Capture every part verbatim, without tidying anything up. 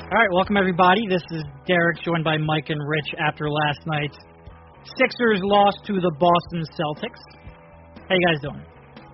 All right, welcome everybody. This is Derek, joined by Mike and Rich after last night's Sixers loss to the Boston Celtics. How you guys doing?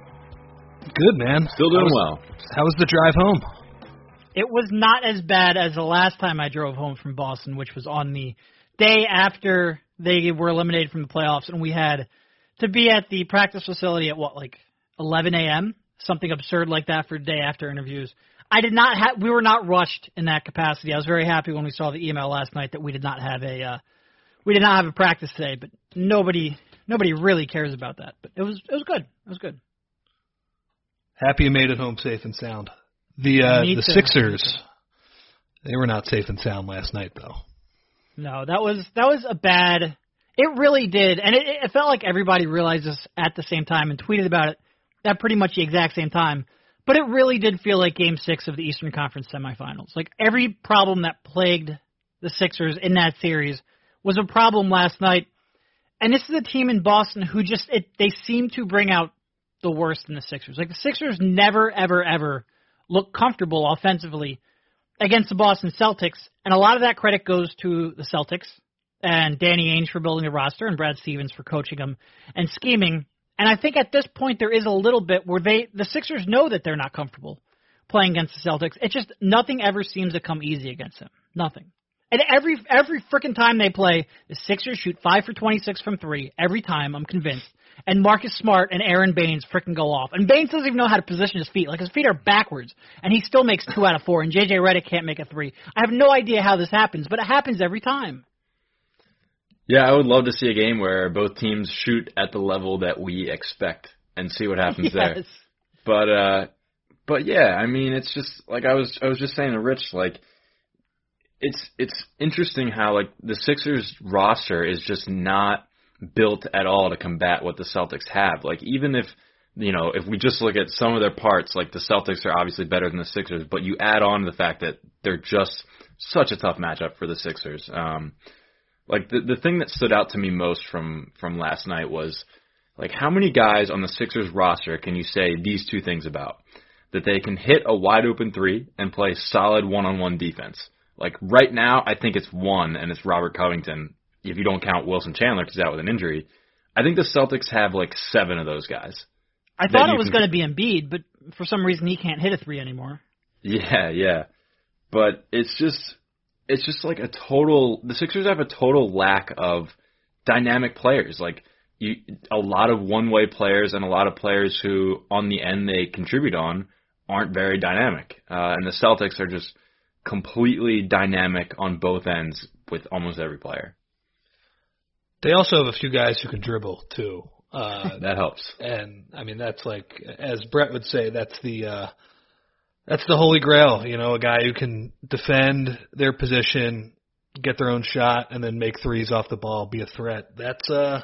Good, man. Still doing how was, well. How was the drive home? It was not as bad as the last time I drove home from Boston, which was on the day after they were eliminated from the playoffs, and we had to be at the practice facility at, what, like eleven a.m.? Something absurd like that for day after interviews. I did not have. We were not rushed in that capacity. I was very happy when we saw the email last night that we did not have a uh, we did not have a practice today. But nobody nobody really cares about that. But it was it was good. It was good. Happy you made it home safe and sound. The uh, the too. Sixers, they were not safe and sound last night, though. No, that was that was a bad. It really did, and it, it felt like everybody realized this at the same time and tweeted about it at pretty much the exact same time. But it really did feel like Game Six of the Eastern Conference semifinals. Like every problem that plagued the Sixers in that series was a problem last night. And this is a team in Boston who just it, they seem to bring out the worst in the Sixers. Like the Sixers never, ever, ever look comfortable offensively against the Boston Celtics, and a lot of that credit goes to the Celtics and Danny Ainge for building the roster and Brad Stevens for coaching them and scheming. And I think at this point there is a little bit where they the Sixers know that they're not comfortable playing against the Celtics. It's just nothing ever seems to come easy against them. Nothing. And every every frickin' time they play, the Sixers shoot five for twenty-six from three every time, I'm convinced. And Marcus Smart and Aaron Baines frickin' go off. And Baines doesn't even know how to position his feet. Like, his feet are backwards. And he still makes two out of four. And J J Redick can't make a three. I have no idea how this happens, but it happens every time. Yeah, I would love to see a game where both teams shoot at the level that we expect and see what happens yes. there. But uh but yeah, I mean it's just like I was I was just saying to Rich, like it's it's interesting how like the Sixers roster is just not built at all to combat what the Celtics have. Like even if you know, if we just look at some of their parts, like the Celtics are obviously better than the Sixers, but you add on the fact that they're just such a tough matchup for the Sixers. Um Like, the the thing that stood out to me most from, from last night was, like, how many guys on the Sixers roster can you say these two things about? That they can hit a wide-open three and play solid one-on-one defense. Like, right now, I think it's one, and it's Robert Covington, if you don't count Wilson Chandler because he's out with an injury. I think the Celtics have, like, seven of those guys. I thought it was going to be Embiid, but for some reason he can't hit a three anymore. Yeah, yeah. But it's just... It's just like a total. The Sixers have a total lack of dynamic players. Like you, a lot of one-way players and a lot of players who, on the end, they contribute on aren't very dynamic. Uh, and the Celtics are just completely dynamic on both ends with almost every player. They also have a few guys who can dribble too. Uh, that helps. And I mean, that's like, as Brett would say, that's the. Uh, That's the holy grail, you know, a guy who can defend their position, get their own shot, and then make threes off the ball, be a threat. That's, uh,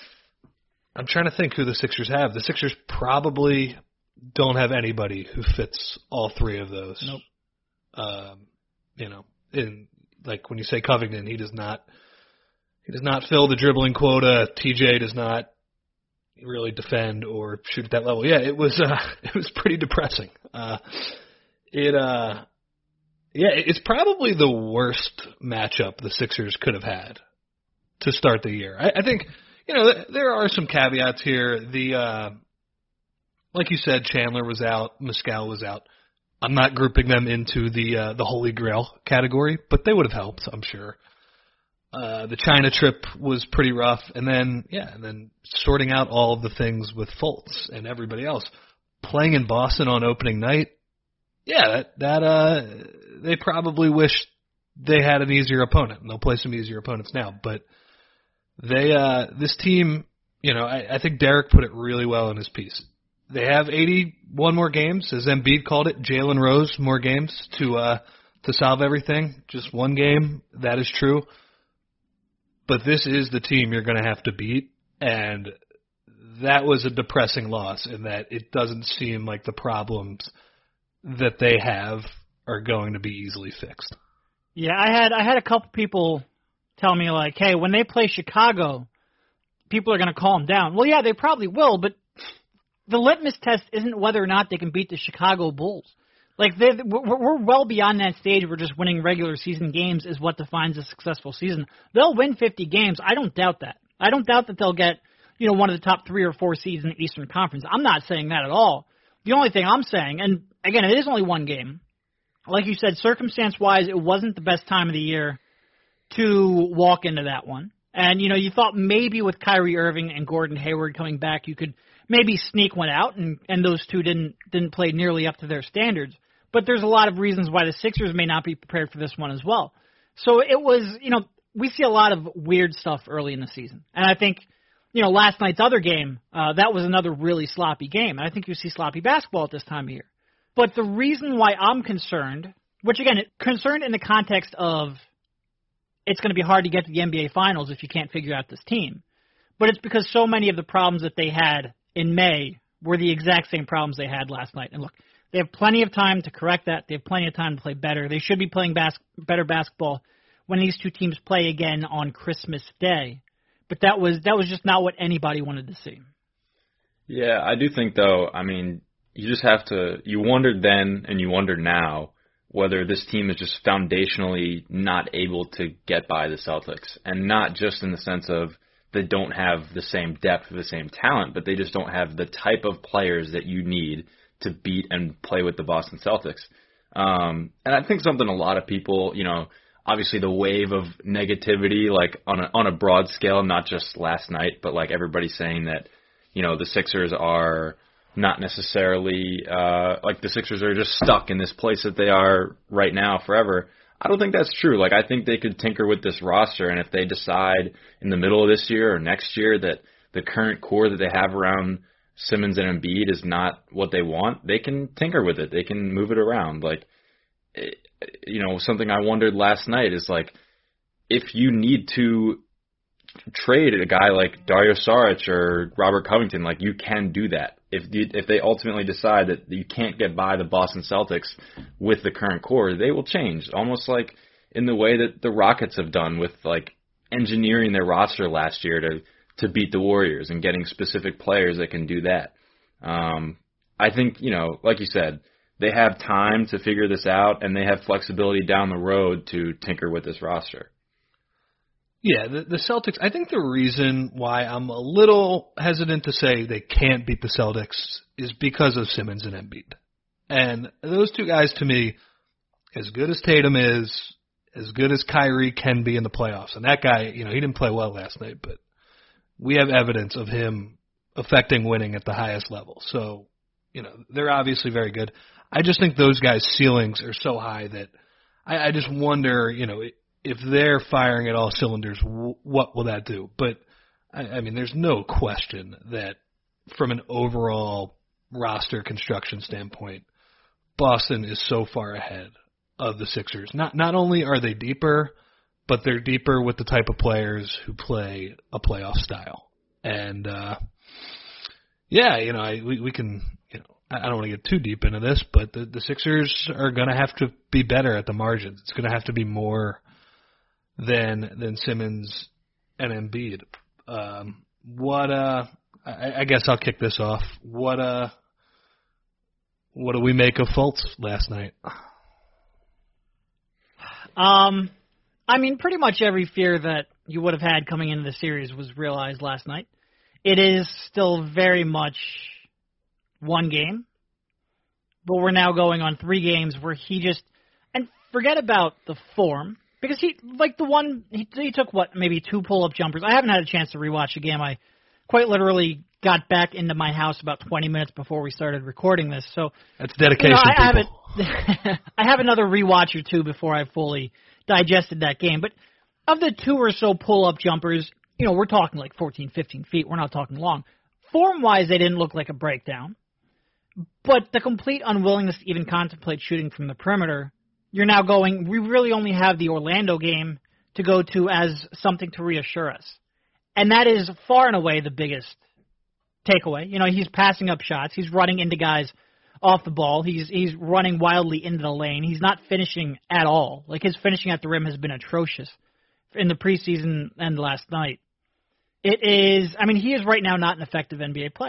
I'm trying to think who the Sixers have. The Sixers probably don't have anybody who fits all three of those. Nope. Um, you know, in, like when you say Covington, he does not, he does not fill the dribbling quota. T J does not really defend or shoot at that level. Yeah, it was, uh, it was pretty depressing. Uh, It uh, yeah, it's probably the worst matchup the Sixers could have had to start the year. I, I think you know th- there are some caveats here. The uh, like you said, Chandler was out, Mescal was out. I'm not grouping them into the uh, the Holy Grail category, but they would have helped, I'm sure. Uh, the China trip was pretty rough, and then yeah, and then sorting out all of the things with Fultz and everybody else. Playing in Boston on opening night. Yeah, that, that uh, they probably wish they had an easier opponent, and they'll play some easier opponents now. But they, uh, this team, you know, I, I think Derek put it really well in his piece. They have eighty-one more games, as Embiid called it, Jalen Rose more games to uh, to solve everything. Just one game, that is true. But this is the team you're going to have to beat, and that was a depressing loss in that it doesn't seem like the problems that they have are going to be easily fixed. Yeah, I had I had a couple people tell me, like, hey, when they play Chicago, people are going to calm down. Well, yeah, they probably will, but the litmus test isn't whether or not they can beat the Chicago Bulls. Like they, we're, we're well beyond that stage where just winning regular season games is what defines a successful season. They'll win fifty games. I don't doubt that. I don't doubt that they'll get, you know, one of the top three or four seeds in the Eastern Conference. I'm not saying that at all. The only thing I'm saying, and again, it is only one game. Like you said, circumstance-wise, it wasn't the best time of the year to walk into that one. And, you know, you thought maybe with Kyrie Irving and Gordon Hayward coming back, you could maybe sneak one out, and, and those two didn't didn't play nearly up to their standards. But there's a lot of reasons why the Sixers may not be prepared for this one as well. So it was, you know, we see a lot of weird stuff early in the season. And I think, you know, last night's other game, uh, that was another really sloppy game. And I think you see sloppy basketball at this time of year. But the reason why I'm concerned, which again, concerned in the context of it's going to be hard to get to the N B A Finals if you can't figure out this team. But it's because so many of the problems that they had in May were the exact same problems they had last night. And look, they have plenty of time to correct that. They have plenty of time to play better. They should be playing bas- better basketball when these two teams play again on Christmas Day. But that was that was just not what anybody wanted to see. Yeah, I do think, though, I mean, you just have to – you wondered then and you wonder now whether this team is just foundationally not able to get by the Celtics. And not just in the sense of they don't have the same depth or the same talent, but they just don't have the type of players that you need to beat and play with the Boston Celtics. Um, and I think something a lot of people, you know, obviously the wave of negativity, like on a, on a broad scale, not just last night, but like everybody saying that, you know, the Sixers are not necessarily, uh, like the Sixers are just stuck in this place that they are right now forever. I don't think that's true. Like, I think they could tinker with this roster, and if they decide in the middle of this year or next year that the current core that they have around Simmons and Embiid is not what they want, they can tinker with it. They can move it around. Like, you know, something I wondered last night is, like, if you need to trade a guy like Dario Saric or Robert Covington, like, you can do that. If you, if they ultimately decide that you can't get by the Boston Celtics with the current core, they will change, almost like in the way that the Rockets have done with, like, engineering their roster last year to to beat the Warriors and getting specific players that can do that. Um, I think, you know, like you said, they have time to figure this out, and they have flexibility down the road to tinker with this roster. Yeah, the, the Celtics, I think the reason why I'm a little hesitant to say they can't beat the Celtics is because of Simmons and Embiid. And those two guys, to me, as good as Tatum is, as good as Kyrie can be in the playoffs. And that guy, you know, he didn't play well last night, but we have evidence of him affecting winning at the highest level. So, you know, they're obviously very good. I just think those guys' ceilings are so high that I, I just wonder, you know, if they're firing at all cylinders, what will that do? But, I, I mean, there's no question that from an overall roster construction standpoint, Boston is so far ahead of the Sixers. Not not only are they deeper, but they're deeper with the type of players who play a playoff style. And, uh, yeah, you know, I, we, we can, you know, I don't want to get too deep into this, but the, the Sixers are going to have to be better at the margins. It's going to have to be more than than Simmons and Embiid. Um, what, uh, I, I guess I'll kick this off. What, uh, what do we make of Fultz last night? Um, I mean, pretty much every fear that you would have had coming into the series was realized last night. It is still very much one game, but we're now going on three games where he just, and forget about the form, because he, like the one, he, he took what, maybe two pull-up jumpers. I haven't had a chance to rewatch the game. I quite literally got back into my house about twenty minutes before we started recording this. So that's dedication, you know, I, people. I, have I have another rewatch or two before I fully digested that game. But of the two or so pull-up jumpers, you know, we're talking like fourteen, fifteen feet. We're not talking long. Form-wise, they didn't look like a breakdown. But the complete unwillingness to even contemplate shooting from the perimeter, you're now going, we really only have the Orlando game to go to as something to reassure us. And that is far and away the biggest takeaway. You know, he's passing up shots. He's running into guys off the ball. He's he's running wildly into the lane. He's not finishing at all. Like, his finishing at the rim has been atrocious in the preseason and last night. It is, I mean, he is right now not an effective N B A player.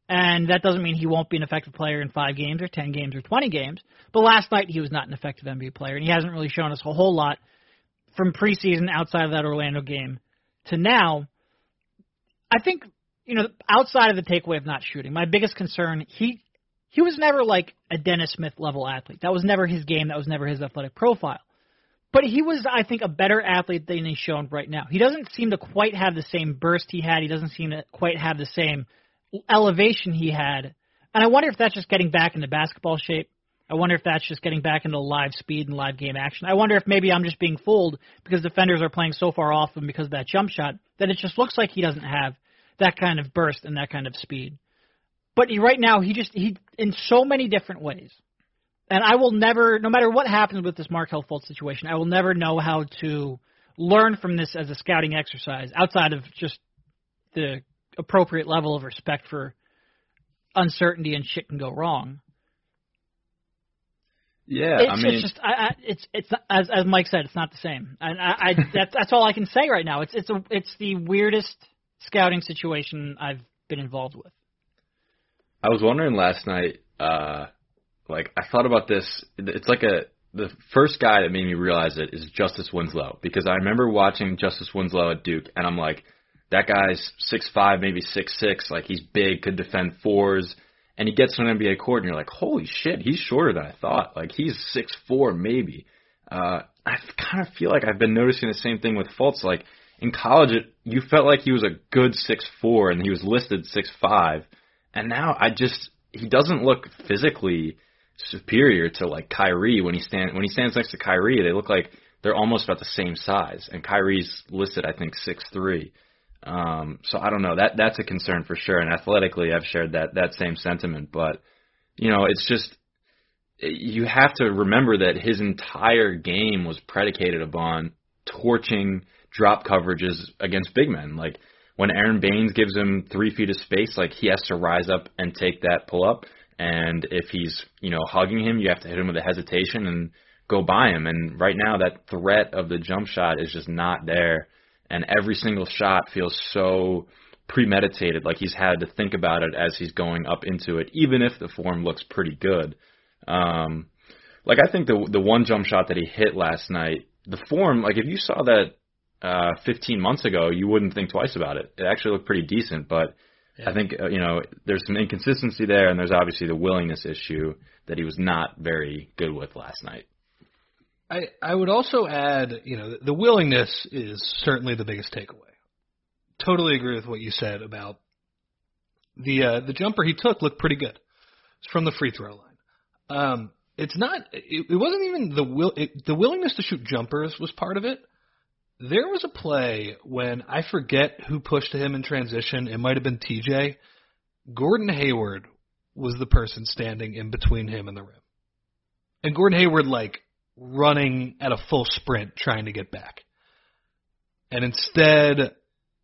And that doesn't mean he won't be an effective player in five games or ten games or twenty games. But last night he was not an effective N B A player, and he hasn't really shown us a whole lot from preseason outside of that Orlando game to now. I think, you know, outside of the takeaway of not shooting, my biggest concern, he he was never like a Dennis Smith level athlete. That was never his game. That was never his athletic profile. But he was, I think, a better athlete than he's shown right now. He doesn't seem to quite have the same burst he had. He doesn't seem to quite have the same elevation he had. And I wonder if that's just getting back into basketball shape. I wonder if that's just getting back into live speed and live game action. I wonder if maybe I'm just being fooled because defenders are playing so far off him because of that jump shot that it just looks like he doesn't have that kind of burst and that kind of speed. But he, right now, he just, he in so many different ways. And I will never, no matter what happens with this Markelle Fultz situation, I will never know how to learn from this as a scouting exercise outside of just the appropriate level of respect for uncertainty and shit can go wrong. Yeah, it's, I mean, it's just, I, I, it's, it's as as Mike said, it's not the same. And I, I that's that's all I can say right now. It's it's a it's the weirdest scouting situation I've been involved with. I was wondering last night, uh, like I thought about this. It's like a the first guy that made me realize it is Justice Winslow, because I remember watching Justice Winslow at Duke, and I'm like, that guy's six five, maybe six six, like he's big, could defend fours. And he gets to an N B A court, and you're like, holy shit, he's shorter than I thought. Like, he's six four, maybe. Uh, I kind of feel like I've been noticing the same thing with Fultz. Like, in college, it, you felt like he was a good six four, and he was listed six five. And now I just, he doesn't look physically superior to, like, Kyrie. When he, stand, when he stands next to Kyrie, they look like they're almost about the same size. And Kyrie's listed, I think, six three. Um, so I don't know. That that's a concern for sure. And athletically, I've shared that that same sentiment. But you know, it's just you have to remember that his entire game was predicated upon torching drop coverages against big men. Like when Aaron Baines gives him three feet of space, like he has to rise up and take that pull up. And if he's you know hugging him, you have to hit him with a hesitation and go by him. And right now, that threat of the jump shot is just not there. And every single shot feels so premeditated, like he's had to think about it as he's going up into it, even if the form looks pretty good. Um, like I think the the one jump shot that he hit last night, the form, like if you saw that uh, fifteen months ago, you wouldn't think twice about it. It actually looked pretty decent, but yeah. I think uh, you know there's some inconsistency there, and there's obviously the willingness issue that he was not very good with last night. I, I would also add, you know, the willingness is certainly the biggest takeaway. Totally agree with what you said about the uh, the jumper he took looked pretty good. It's from the free throw line. Um, it's not. It, it wasn't even the will. It, the willingness to shoot jumpers was part of it. There was a play when I forget who pushed him in transition. It might have been T J. Gordon Hayward was the person standing in between him and the rim, and Gordon Hayward like. running at a full sprint trying to get back. And instead,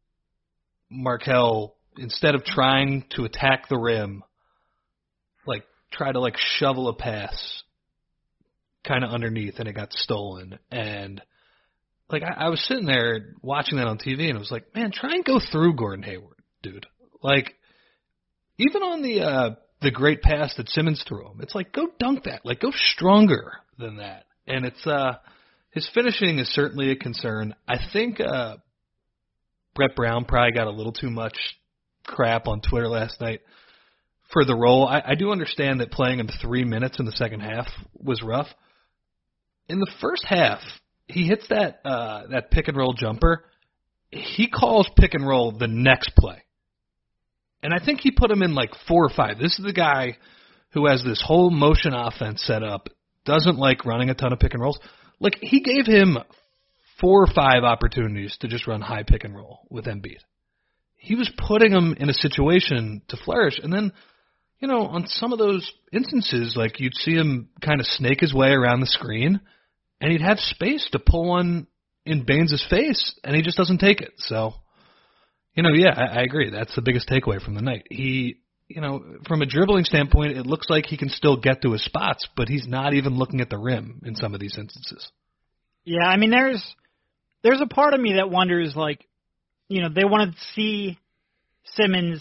Markelle, instead of trying to attack the rim, like try to like shovel a pass kind of underneath, and it got stolen. And like I, I was sitting there watching that on T V, and I was like, man, try and go through Gordon Hayward, dude. Like even on the uh, the great pass that Simmons threw him, it's like go dunk that, like go stronger than that. And it's uh, his finishing is certainly a concern. I think uh, Brett Brown probably got a little too much crap on Twitter last night for the role. I, I do understand that playing him three minutes in the second half was rough. In the first half, he hits that uh, that pick and roll jumper. He calls pick and roll the next play. And I think he put him in like four or five. This is the guy who has this whole motion offense set up, doesn't like running a ton of pick and rolls. Like, he gave him four or five opportunities to just run high pick and roll with Embiid. He was putting him in a situation to flourish. And then, you know, on some of those instances, like, you'd see him kind of snake his way around the screen, and he'd have space to pull one in Baines' face, and he just doesn't take it. So, you know, yeah, I, I agree. That's the biggest takeaway from the night. He... You know, from a dribbling standpoint, it looks like he can still get to his spots, but he's not even looking at the rim in some of these instances. Yeah, I mean, there's there's a part of me that wonders, like, you know, they want to see Simmons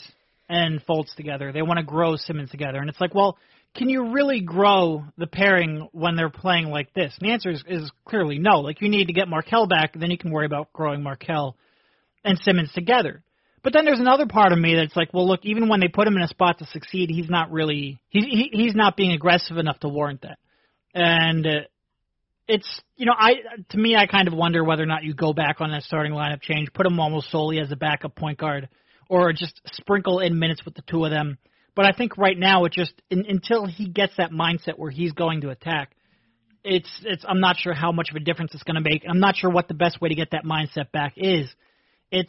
and Fultz together. They want to grow Simmons together. And it's like, well, can you really grow the pairing when they're playing like this? And the answer is, is clearly no. Like, you need to get Markelle back, and then you can worry about growing Markelle and Simmons together. But then there's another part of me that's like, well, look, even when they put him in a spot to succeed, he's not really he's he, he's not being aggressive enough to warrant that. And uh, it's, you know, I to me, I kind of wonder whether or not you go back on that starting lineup change, put him almost solely as a backup point guard, or just sprinkle in minutes with the two of them. But I think right now, it just in, until he gets that mindset where he's going to attack, it's it's. I'm not sure how much of a difference it's going to make. I'm not sure what the best way to get that mindset back is. It's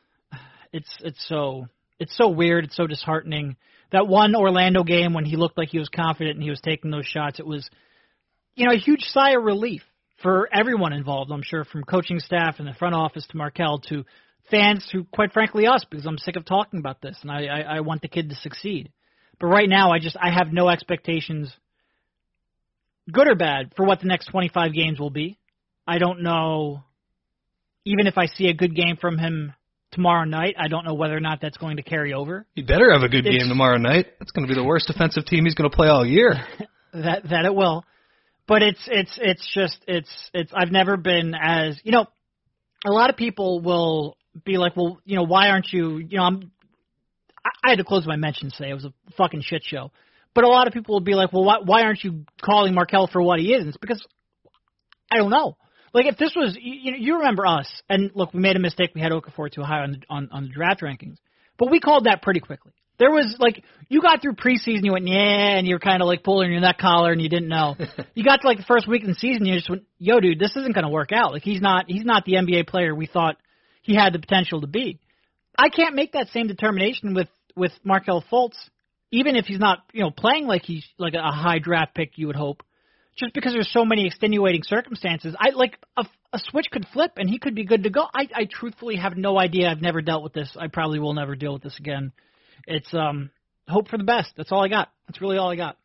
it's it's so it's so weird. It's so disheartening. That one Orlando game when he looked like he was confident and he was taking those shots, it was, you know, a huge sigh of relief for everyone involved. I'm sure, from coaching staff and the front office to Markelle to fans, to, quite frankly, us, because I'm sick of talking about this, and I, I, I want the kid to succeed. But right now, I just I have no expectations, good or bad, for what the next twenty-five games will be. I don't know, even if I see a good game from him tomorrow night, I don't know whether or not that's going to carry over. He better have a good It's, game tomorrow night. That's going to be the worst defensive team he's going to play all year. that that it will. But it's it's it's just it's it's I've never been as, you know, a lot of people will be like, well, you know, why aren't you, you know, I'm, I had to close my mentions today. It was a fucking shit show. But a lot of people will be like, well, why, why aren't you calling Markelle for what he is? And it's because I don't know. Like, if this was, you know, you remember us, and look, we made a mistake. We had Okafor too high on the, on, on the draft rankings. But we called that pretty quickly. There was, like, you got through preseason, you went, yeah, and you were kind of like pulling your neck collar and you didn't know. You got to, like, the first week of the season, you just went, yo, dude, this isn't going to work out. Like, he's not, he's not the N B A player we thought he had the potential to be. I can't make that same determination with, with Markelle Fultz, even if he's not, you know, playing like he's like a high draft pick, you would hope, just because there's so many extenuating circumstances. I like a, a switch could flip and he could be good to go. I, I truthfully have no idea. I've never dealt with this. I probably will never deal with this again. It's um hope for the best. That's all I got. That's really all I got.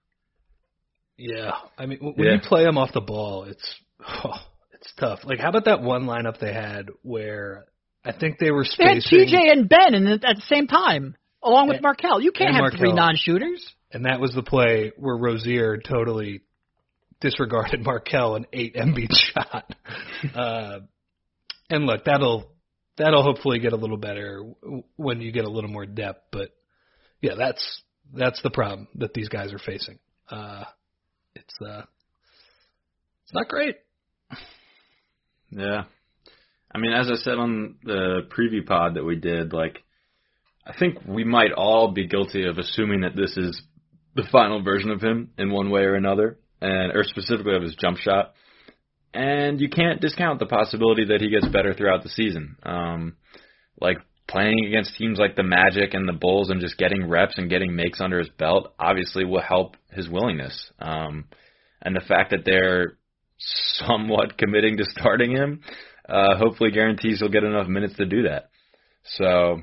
Yeah, I mean, when Yeah. you play him off the ball, it's oh, it's tough. Like, how about that one lineup they had where I think they were They spacing, had T J and Ben and at the same time, along with And- Markelle. You can't and have Markelle. three non-shooters. and that was the play where Rozier totally disregarded Markelle and ate Embiid's shot. uh, and look, that'll that'll hopefully get a little better w- when you get a little more depth. But yeah, that's that's the problem that these guys are facing. Uh, it's uh, it's not great. Yeah. I mean, as I said on the preview pod that we did, like, I think we might all be guilty of assuming that this is the final version of him in one way or another, and or specifically of his jump shot. And you can't discount the possibility that he gets better throughout the season. Um, like, playing against teams like the Magic and the Bulls and just getting reps and getting makes under his belt obviously will help his willingness. Um, and the fact that they're somewhat committing to starting him uh, hopefully guarantees he'll get enough minutes to do that. So,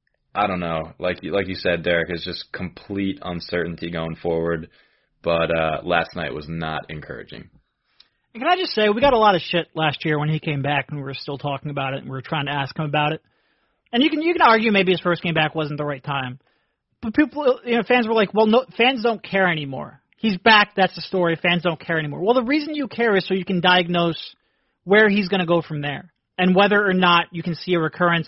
I don't know. Like, like you said, Derek, it's just complete uncertainty going forward. But uh, last night was not encouraging. And can I just say, we got a lot of shit last year when he came back and we were still talking about it and we were trying to ask him about it. And you can you can argue maybe his first game back wasn't the right time. But people, you know, fans were like, well, no, fans don't care anymore. He's back, that's the story, fans don't care anymore. Well, the reason you care is so you can diagnose where he's going to go from there and whether or not you can see a recurrence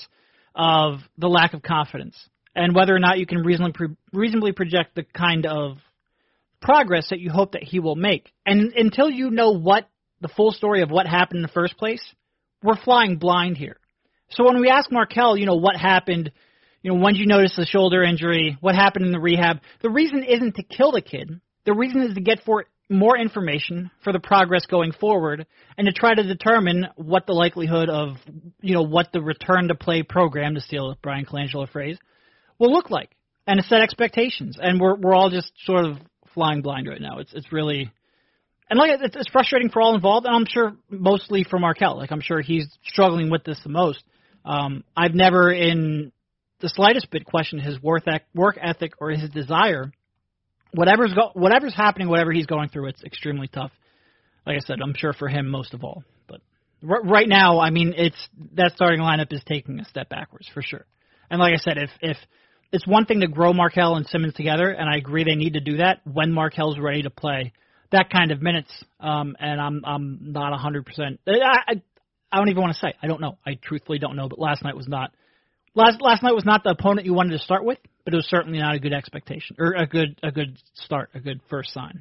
of the lack of confidence and whether or not you can reasonably, reasonably project the kind of progress that you hope that he will make. And until you know what the full story of what happened in the first place, we're flying blind here. So when we ask Markelle, you know, what happened, you know, when did you notice the shoulder injury, what happened in the rehab, the reason isn't to kill the kid. The reason is to get for more information for the progress going forward and to try to determine what the likelihood of, you know, what the return to play program, to steal a Brian Colangelo phrase, will look like and to set expectations. And we're we're all just sort of flying blind right now. It's it's really, and like it's, it's frustrating for all involved, and I'm sure mostly for Markelle. Like I'm sure he's struggling with this the most. Um, I've never in the slightest bit questioned his work work ethic or his desire. Whatever's go, whatever's happening, whatever he's going through, it's extremely tough. Like I said, I'm sure for him most of all. But r- right now, I mean, it's that starting lineup is taking a step backwards for sure. And like I said, if if it's one thing to grow Markelle and Simmons together, and I agree they need to do that when Markelle's ready to play that kind of minutes. Um, and I'm I'm not one hundred percent. I, I I don't even want to say. I don't know. I truthfully don't know. But last night was not last last night was not the opponent you wanted to start with, but it was certainly not a good expectation or a good a good start, a good first sign.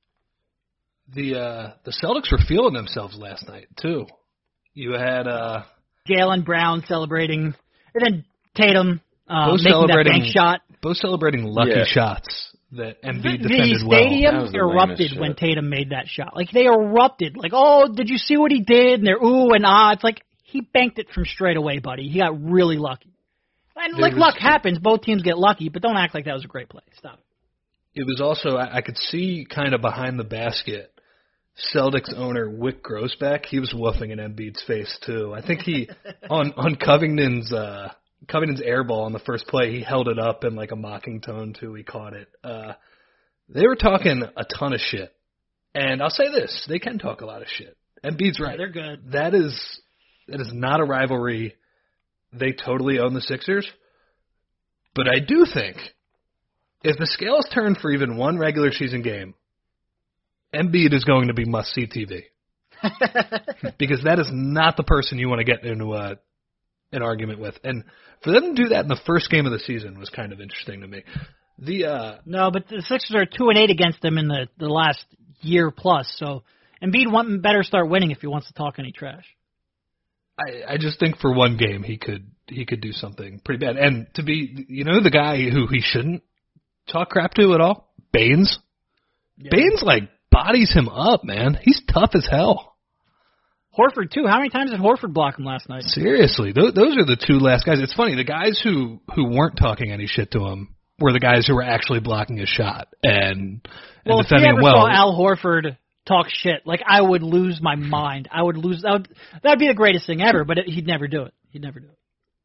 The uh, the Celtics were feeling themselves last night too. You had uh, Jaylen Brown celebrating, and then Tatum uh, both making that celebrating bank shot. Both celebrating lucky Yeah. shots that Embiid The, defended the well. stadium That was the erupted lamest when shit. Tatum made that shot. Like, they erupted. Like, oh, did you see what he did? And they're ooh and ah. It's like, he banked it from straight away, buddy. He got really lucky. And, There like, was- luck happens. Both teams get lucky, but don't act like that was a great play. Stop. It was also, I, I could see kind of behind the basket, Celtics owner Wick Grossbeck, he was woofing in Embiid's face too. I think he, on, on Covington's, uh, Covington's air ball on the first play, he held it up in like a mocking tone too. He caught it. Uh, they were talking a ton of shit. And I'll say this, they can talk a lot of shit. Embiid's right. Yeah, they're good. That is, that is not a rivalry. They totally own the Sixers. But I do think if the scales turn for even one regular season game, Embiid is going to be must-see T V. Because that is not the person you want to get into a, an argument with. And for them to do that in the first game of the season was kind of interesting to me. The uh, No, but the Sixers are two and eight against them in the, the last year plus. So Embiid want, better start winning if he wants to talk any trash. I, I just think for one game he could he could do something pretty bad. And to be, you know, the guy who he shouldn't talk crap to at all, Baines. Yeah. Baines like bodies him up, man. He's tough as hell. Horford, too. How many times did Horford block him last night? Seriously, those, those are the two last guys. It's funny, the guys who, who weren't talking any shit to him were the guys who were actually blocking his shot and, and Well, if you defending ever him well. saw Al Horford talk shit, like, I would lose my mind. I would lose. That would that'd be the greatest thing ever, but it, he'd never do it. He'd never do it.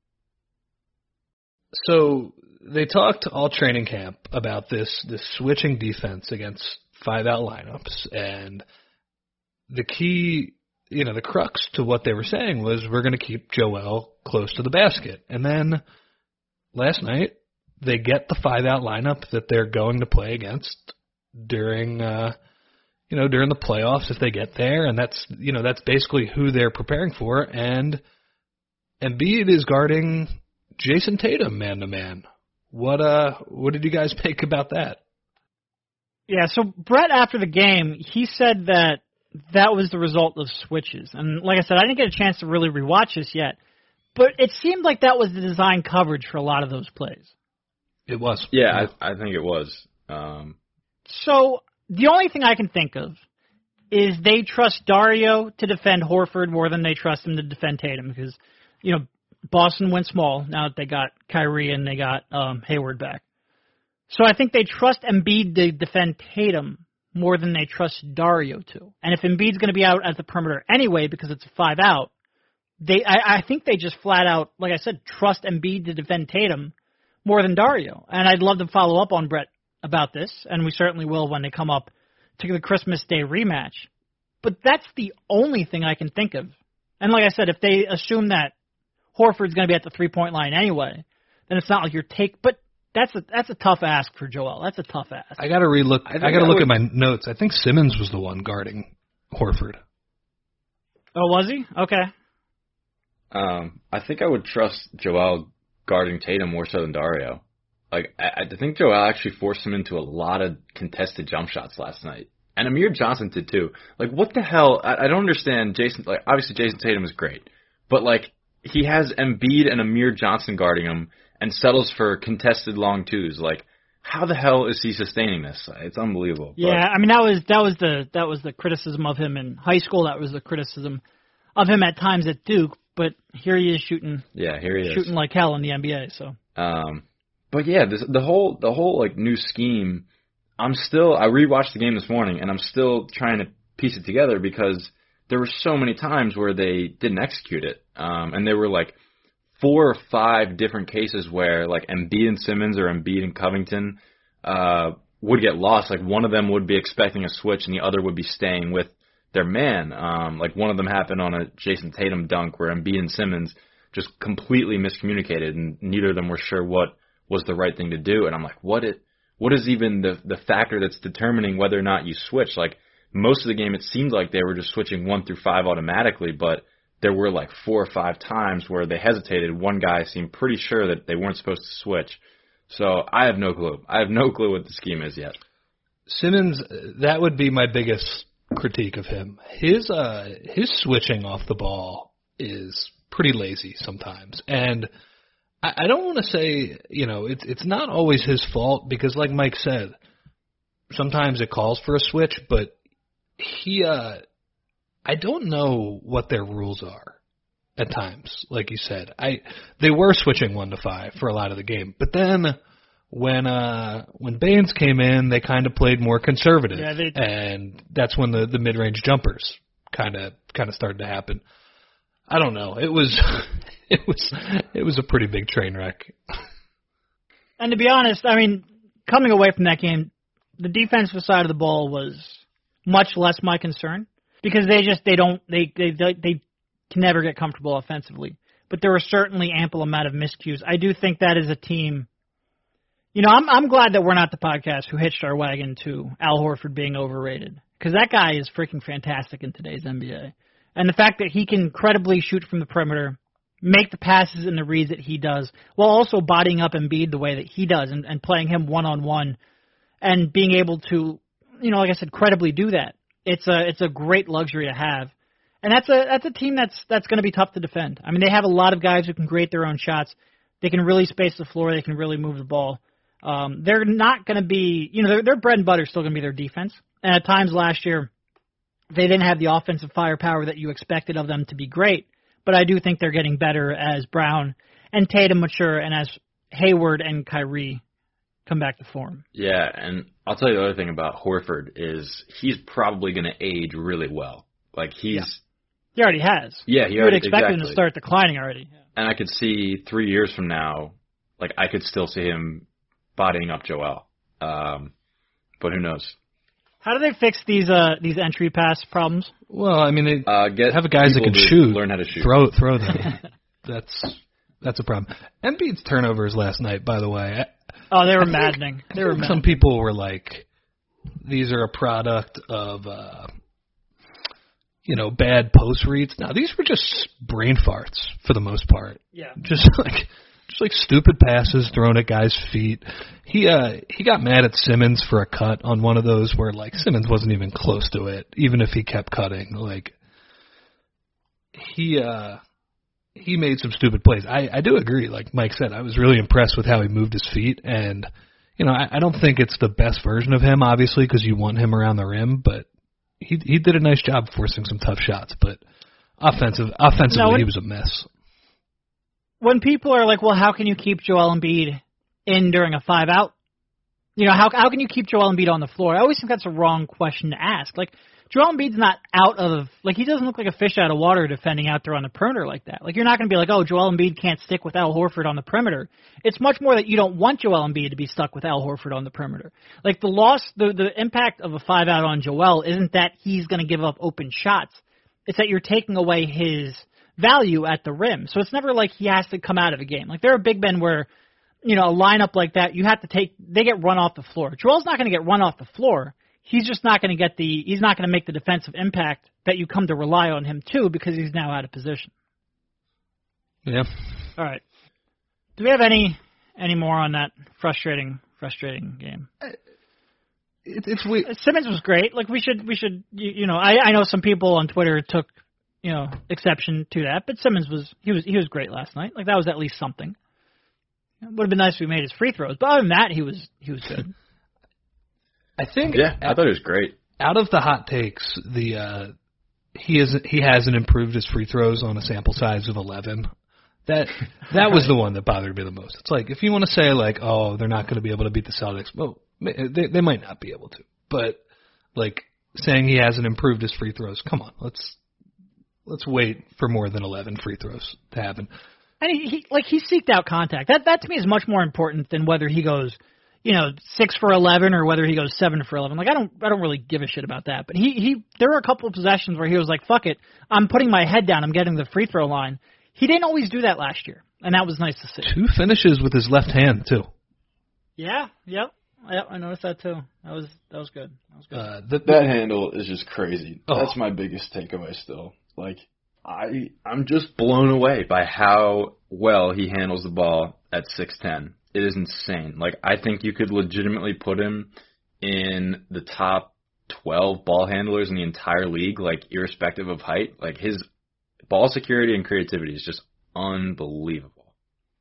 So they talked all training camp about this this switching defense against five out lineups, and the key, you know, the crux to what they were saying was we're going to keep Joel close to the basket. And then last night they get the five out lineup that they're going to play against during uh you know, during the playoffs if they get there, and that's, you know, that's basically who they're preparing for. And Embiid is guarding Jason Tatum man to man. What uh what did you guys make about that? Yeah, so Brett, after the game, he said that that was the result of switches. And like I said, I didn't get a chance to really rewatch this yet, but it seemed like that was the design coverage for a lot of those plays. It was. Yeah, I, I think it was. Um, So the only thing I can think of is they trust Dario to defend Horford more than they trust him to defend Tatum because, you know, Boston went small now that they got Kyrie and they got um, Hayward back. So I think they trust Embiid to defend Tatum more than they trust Dario to. And if Embiid's going to be out at the perimeter anyway because it's a five out, they I, I think they just flat out, like I said, trust Embiid to defend Tatum more than Dario. And I'd love to follow up on Brett about this, and we certainly will when they come up to the Christmas Day rematch. But that's the only thing I can think of. And like I said, if they assume that Horford's going to be at the three-point line anyway, then it's not like your take. But that's a that's a tough ask for Joel. That's a tough ask. I got to relook. I, I got think to I look would- at my notes. I think Simmons was the one guarding Horford. Oh, was he? Okay. um, I think I would trust Joel guarding Tatum more so than Dario. Like, I, I think Joel actually forced him into a lot of contested jump shots last night. And Amir Johnson did too. Like, what the hell? I, I don't understand Jason. Like, obviously Jason Tatum is great. But, like, he has Embiid and Amir Johnson guarding him and settles for contested long twos. Like, how the hell is he sustaining this? It's unbelievable. Yeah, I mean that was that was the that was the criticism of him in high school. That was the criticism of him at times at Duke. But here he is shooting But, yeah, here he is. shooting like hell in the N B A. So Um, but yeah, this, the whole the whole like new scheme. I'm still I rewatched the game this morning and I'm still trying to piece it together because there were so many times where they didn't execute it, um, and there were like four or five different cases where like Embiid and Simmons or Embiid and Covington uh, would get lost. Like one of them would be expecting a switch and the other would be staying with their man. Um, like one of them happened on a Jason Tatum dunk where Embiid and Simmons just completely miscommunicated and neither of them were sure what was the right thing to do. And I'm like, what it, what is even the the factor that's determining whether or not you switch? Like, most of the game, it seemed like they were just switching one through five automatically, but there were like four or five times where they hesitated. One guy seemed pretty sure that they weren't supposed to switch. So I have no clue. I have no clue what the scheme is yet. Simmons, that would be my biggest critique of him. His uh, his switching off the ball is pretty lazy sometimes. And I, I don't want to say, you know, it's it's not always his fault because, like Mike said, sometimes it calls for a switch, but he, uh, I don't know what their rules are at times, like you said. I They were switching one to five for a lot of the game, but then when uh, when Baines came in, they kind of played more conservative, yeah, they, and that's when the, the mid-range jumpers kind of kind of started to happen. I don't know. It was it was it was a pretty big train wreck. And to be honest, I mean, coming away from that game, the defensive side of the ball was much less my concern because they just they don't they they they, they can never get comfortable offensively. But there were certainly ample amount of miscues. I do think that is a team. You know, I'm I'm glad that we're not the podcast who hitched our wagon to Al Horford being overrated because that guy is freaking fantastic in today's N B A. And the fact that he can credibly shoot from the perimeter, make the passes and the reads that he does, while also bodying up Embiid the way that he does and, and playing him one-on-one and being able to, you know, like I said, credibly do that. It's a it's a great luxury to have. And that's a that's a team that's that's going to be tough to defend. I mean, they have a lot of guys who can create their own shots. They can really space the floor. They can really move the ball. Um, they're not going to be, you know, their, their bread and butter is still going to be their defense. And at times last year, they didn't have the offensive firepower that you expected of them to be great, but I do think they're getting better as Brown and Tatum mature and as Hayward and Kyrie come back to form. Yeah, and I'll tell you the other thing about Horford is he's probably going to age really well. Like he's... Yeah. He already has. Yeah, he you already... would expect exactly. him to start declining already. Yeah. And I could see three years from now, like I could still see him bodying up Joel. Um, but who knows? How do they fix these uh, these entry pass problems? Well, I mean, they uh, get have guys that can shoot. Learn how to shoot. Throw, throw them. that's that's a problem. Embiid's turnovers last night, by the way. Oh, they were maddening. They were. Some maddening. people were like, "These are a product of, uh, you know, bad post reads." Now, these were just brain farts for the most part. Yeah. Just like. Just like stupid passes thrown at guys' feet. He uh he got mad at Simmons for a cut on one of those where like Simmons wasn't even close to it, even if he kept cutting. Like he uh he made some stupid plays. I, I do agree, like Mike said, I was really impressed with how he moved his feet, and you know, I, I don't think it's the best version of him, obviously, because you want him around the rim, but he he did a nice job forcing some tough shots. But offensive offensively, no, when- he was a mess. When people are like, well, how can you keep Joel Embiid in during a five-out? You know, how how can you keep Joel Embiid on the floor? I always think that's a wrong question to ask. Like, Joel Embiid's not out of, like, he doesn't look like a fish out of water defending out there on the perimeter like that. Like, you're not going to be like, oh, Joel Embiid can't stick with Al Horford on the perimeter. It's much more that you don't want Joel Embiid to be stuck with Al Horford on the perimeter. Like, the loss, the, the impact of a five-out on Joel isn't that he's going to give up open shots. It's that you're taking away his value at the rim. So it's never like he has to come out of a game. Like there are big men where, you know, a lineup like that, you have to take, they get run off the floor. Joel's not going to get run off the floor. He's just not going to get the, he's not going to make the defensive impact that you come to rely on him to because he's now out of position. Yeah. All right. Do we have any, any more on that frustrating, frustrating game? It, it's we. Simmons was great. Like we should, we should, you, you know, I, I know some people on Twitter took, you know, exception to that, but Simmons was he was he was great last night. Like that was at least something. It would have been nice if we made his free throws, but other than that, he was he was good. I think. Yeah, I thought it was great. Out of the hot takes, the uh, he is he hasn't improved his free throws on a sample size of eleven. That that was the one that bothered me the most. It's like if you want to say like, oh, they're not going to be able to beat the Celtics. Well, they they might not be able to, but like saying he hasn't improved his free throws. Come on, let's. Let's wait for more than eleven free throws to happen. And he, he like he seeked out contact. That that to me is much more important than whether he goes, you know, six for eleven or whether he goes seven for eleven. Like I don't I don't really give a shit about that. But he, he there were a couple of possessions where he was like, fuck it, I'm putting my head down, I'm getting the free throw line. He didn't always do that last year, and that was nice to see. Two finishes with his left hand too. Yeah, yep. Yep, I noticed that too. That was that was good. That was good. Uh, the, That handle is just crazy. Oh. That's my biggest takeaway still. Like, I I'm just blown away by how well he handles the ball at six ten. It is insane. Like, I think you could legitimately put him in the top twelve ball handlers in the entire league, like, irrespective of height. Like, his ball security and creativity is just unbelievable.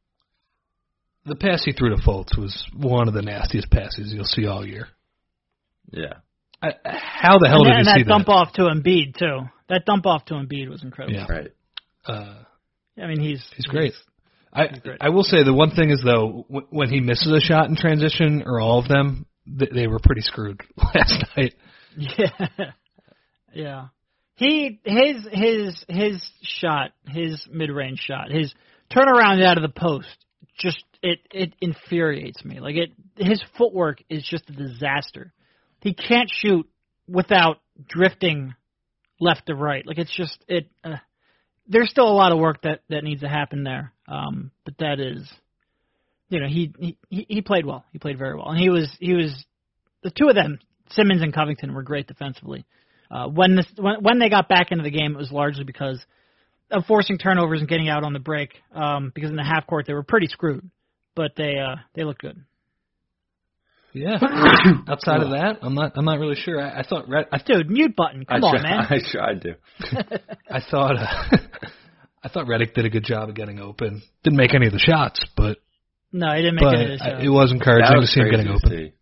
the pass he threw to Fultz was one of the nastiest passes you'll see all year. Yeah. I, how the hell and did that, you and see that dump off to Embiid too? That dump off to Embiid was incredible. Yeah. Right. Uh, I mean, he's he's great. I great. I will say the one thing is though, w- when he misses a shot in transition, or all of them, th- they were pretty screwed last night. Yeah, yeah. He his his his shot, his mid range shot, his turnaround out of the post, just it it infuriates me. Like it, his footwork is just a disaster. He can't shoot without drifting left to right. Like it's just it. Uh, there's still a lot of work that, that needs to happen there. Um, but that is, you know, he, he he played well. He played very well, and he was he was the two of them, Simmons and Covington, were great defensively. Uh, when this when when they got back into the game, it was largely because of forcing turnovers and getting out on the break. Um, because in the half court they were pretty screwed, but they uh they looked good. Yeah. Outside of that, I'm not I'm not really sure. I, I thought Red, I, Dude, mute button. Come I on, try, man. I tried to. I thought uh, I thought Redick did a good job of getting open. Didn't make any of the shots, but No, he didn't make but any of this. I, it was encouraging That was to see him crazy getting to open. see.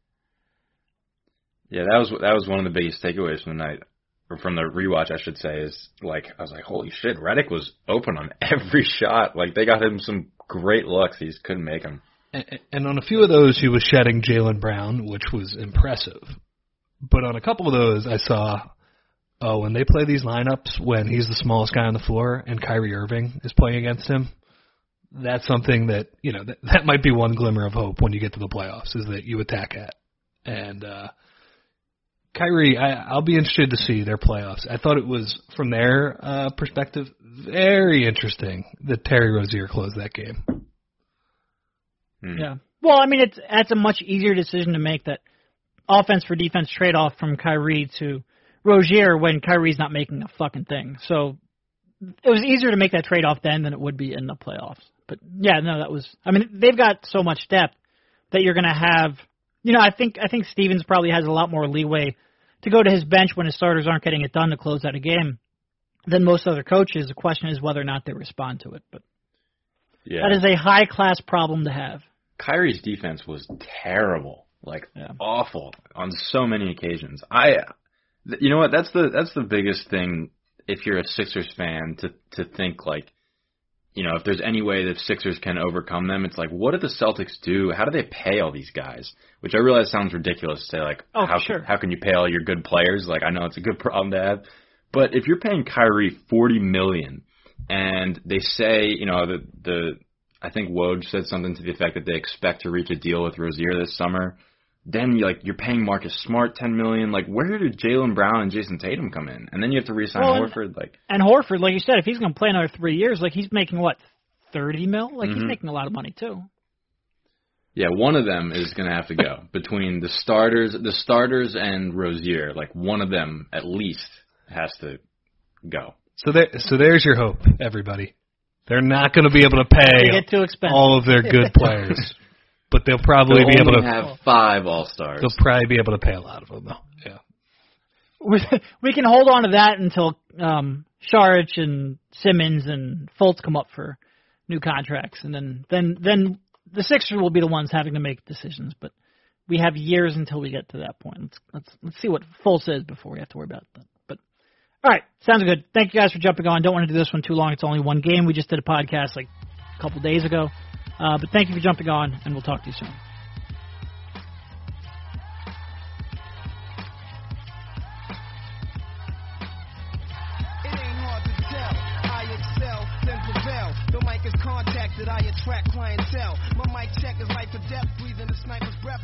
Yeah, that was that was one of the biggest takeaways from the night, or from the rewatch, I should say. Is like I was like, holy shit, Redick was open on every shot. Like they got him some great looks, he just couldn't make them. And, and on a few of those, he was shedding Jaylen Brown, which was impressive. But on a couple of those, I saw, oh, when they play these lineups, when he's the smallest guy on the floor and Kyrie Irving is playing against him, that's something that, you know, that, that might be one glimmer of hope when you get to the playoffs, is that you attack at. And uh, Kyrie, I, I'll be interested to see their playoffs. I thought it was, from their uh, perspective, very interesting that Terry Rozier closed that game. Hmm. Yeah. Well, I mean, it's that's a much easier decision to make, that offense for defense trade-off from Kyrie to Rozier when Kyrie's not making a fucking thing. So it was easier to make that trade-off then than it would be in the playoffs. But, yeah, no, that was – I mean, they've got so much depth that you're going to have – you know, I think I think Stevens probably has a lot more leeway to go to his bench when his starters aren't getting it done to close out a game than most other coaches. The question is whether or not they respond to it. But Yeah. that is a high-class problem to have. Kyrie's defense was terrible, like Yeah. awful on so many occasions. I, th- you know what? That's the that's the biggest thing. If you're a Sixers fan, to to think like, you know, if there's any way that Sixers can overcome them, it's like, what do the Celtics do? How do they pay all these guys? Which I realize sounds ridiculous to say, like, Oh, how sure. how can you pay all your good players? Like, I know it's a good problem to have, but if you're paying Kyrie forty million, and they say, you know, the the I think Woj said something to the effect that they expect to reach a deal with Rozier this summer. Then you like you're paying Marcus Smart ten million. Like, where did Jaylen Brown and Jason Tatum come in? And then you have to re-sign Well, and- Horford. Like, And Horford, like you said, if he's going to play another three years, like he's making what, thirty mil? Like he's Mhm. making a lot of money too. yeah, one of them is going to have to go between the starters, the starters and Rozier. Like, one of them at least has to go. So there, so there's your hope, everybody. They're not going to be able to They pay get too expensive. all of their good players, but they'll probably They'll be able only to. have five All-Stars. They'll probably be able to pay a lot of them, though. Yeah. we we can hold on to that until um, Saric and Simmons and Fultz come up for new contracts, and then then then the Sixers will be the ones having to make decisions. But we have years until we get to that point. Let's let's let's see what Fultz is before we have to worry about that. But all right, sounds good. Thank you guys for jumping on. Don't want to do this one too long. It's only one game. We just did a podcast like a couple days ago. Uh, but thank you for jumping on, and we'll talk to you soon. It ain't hard to tell. I excel, then prevail. The mic is contacted, I attract clientele. My mic check is life or death, breathing the sniper's breath.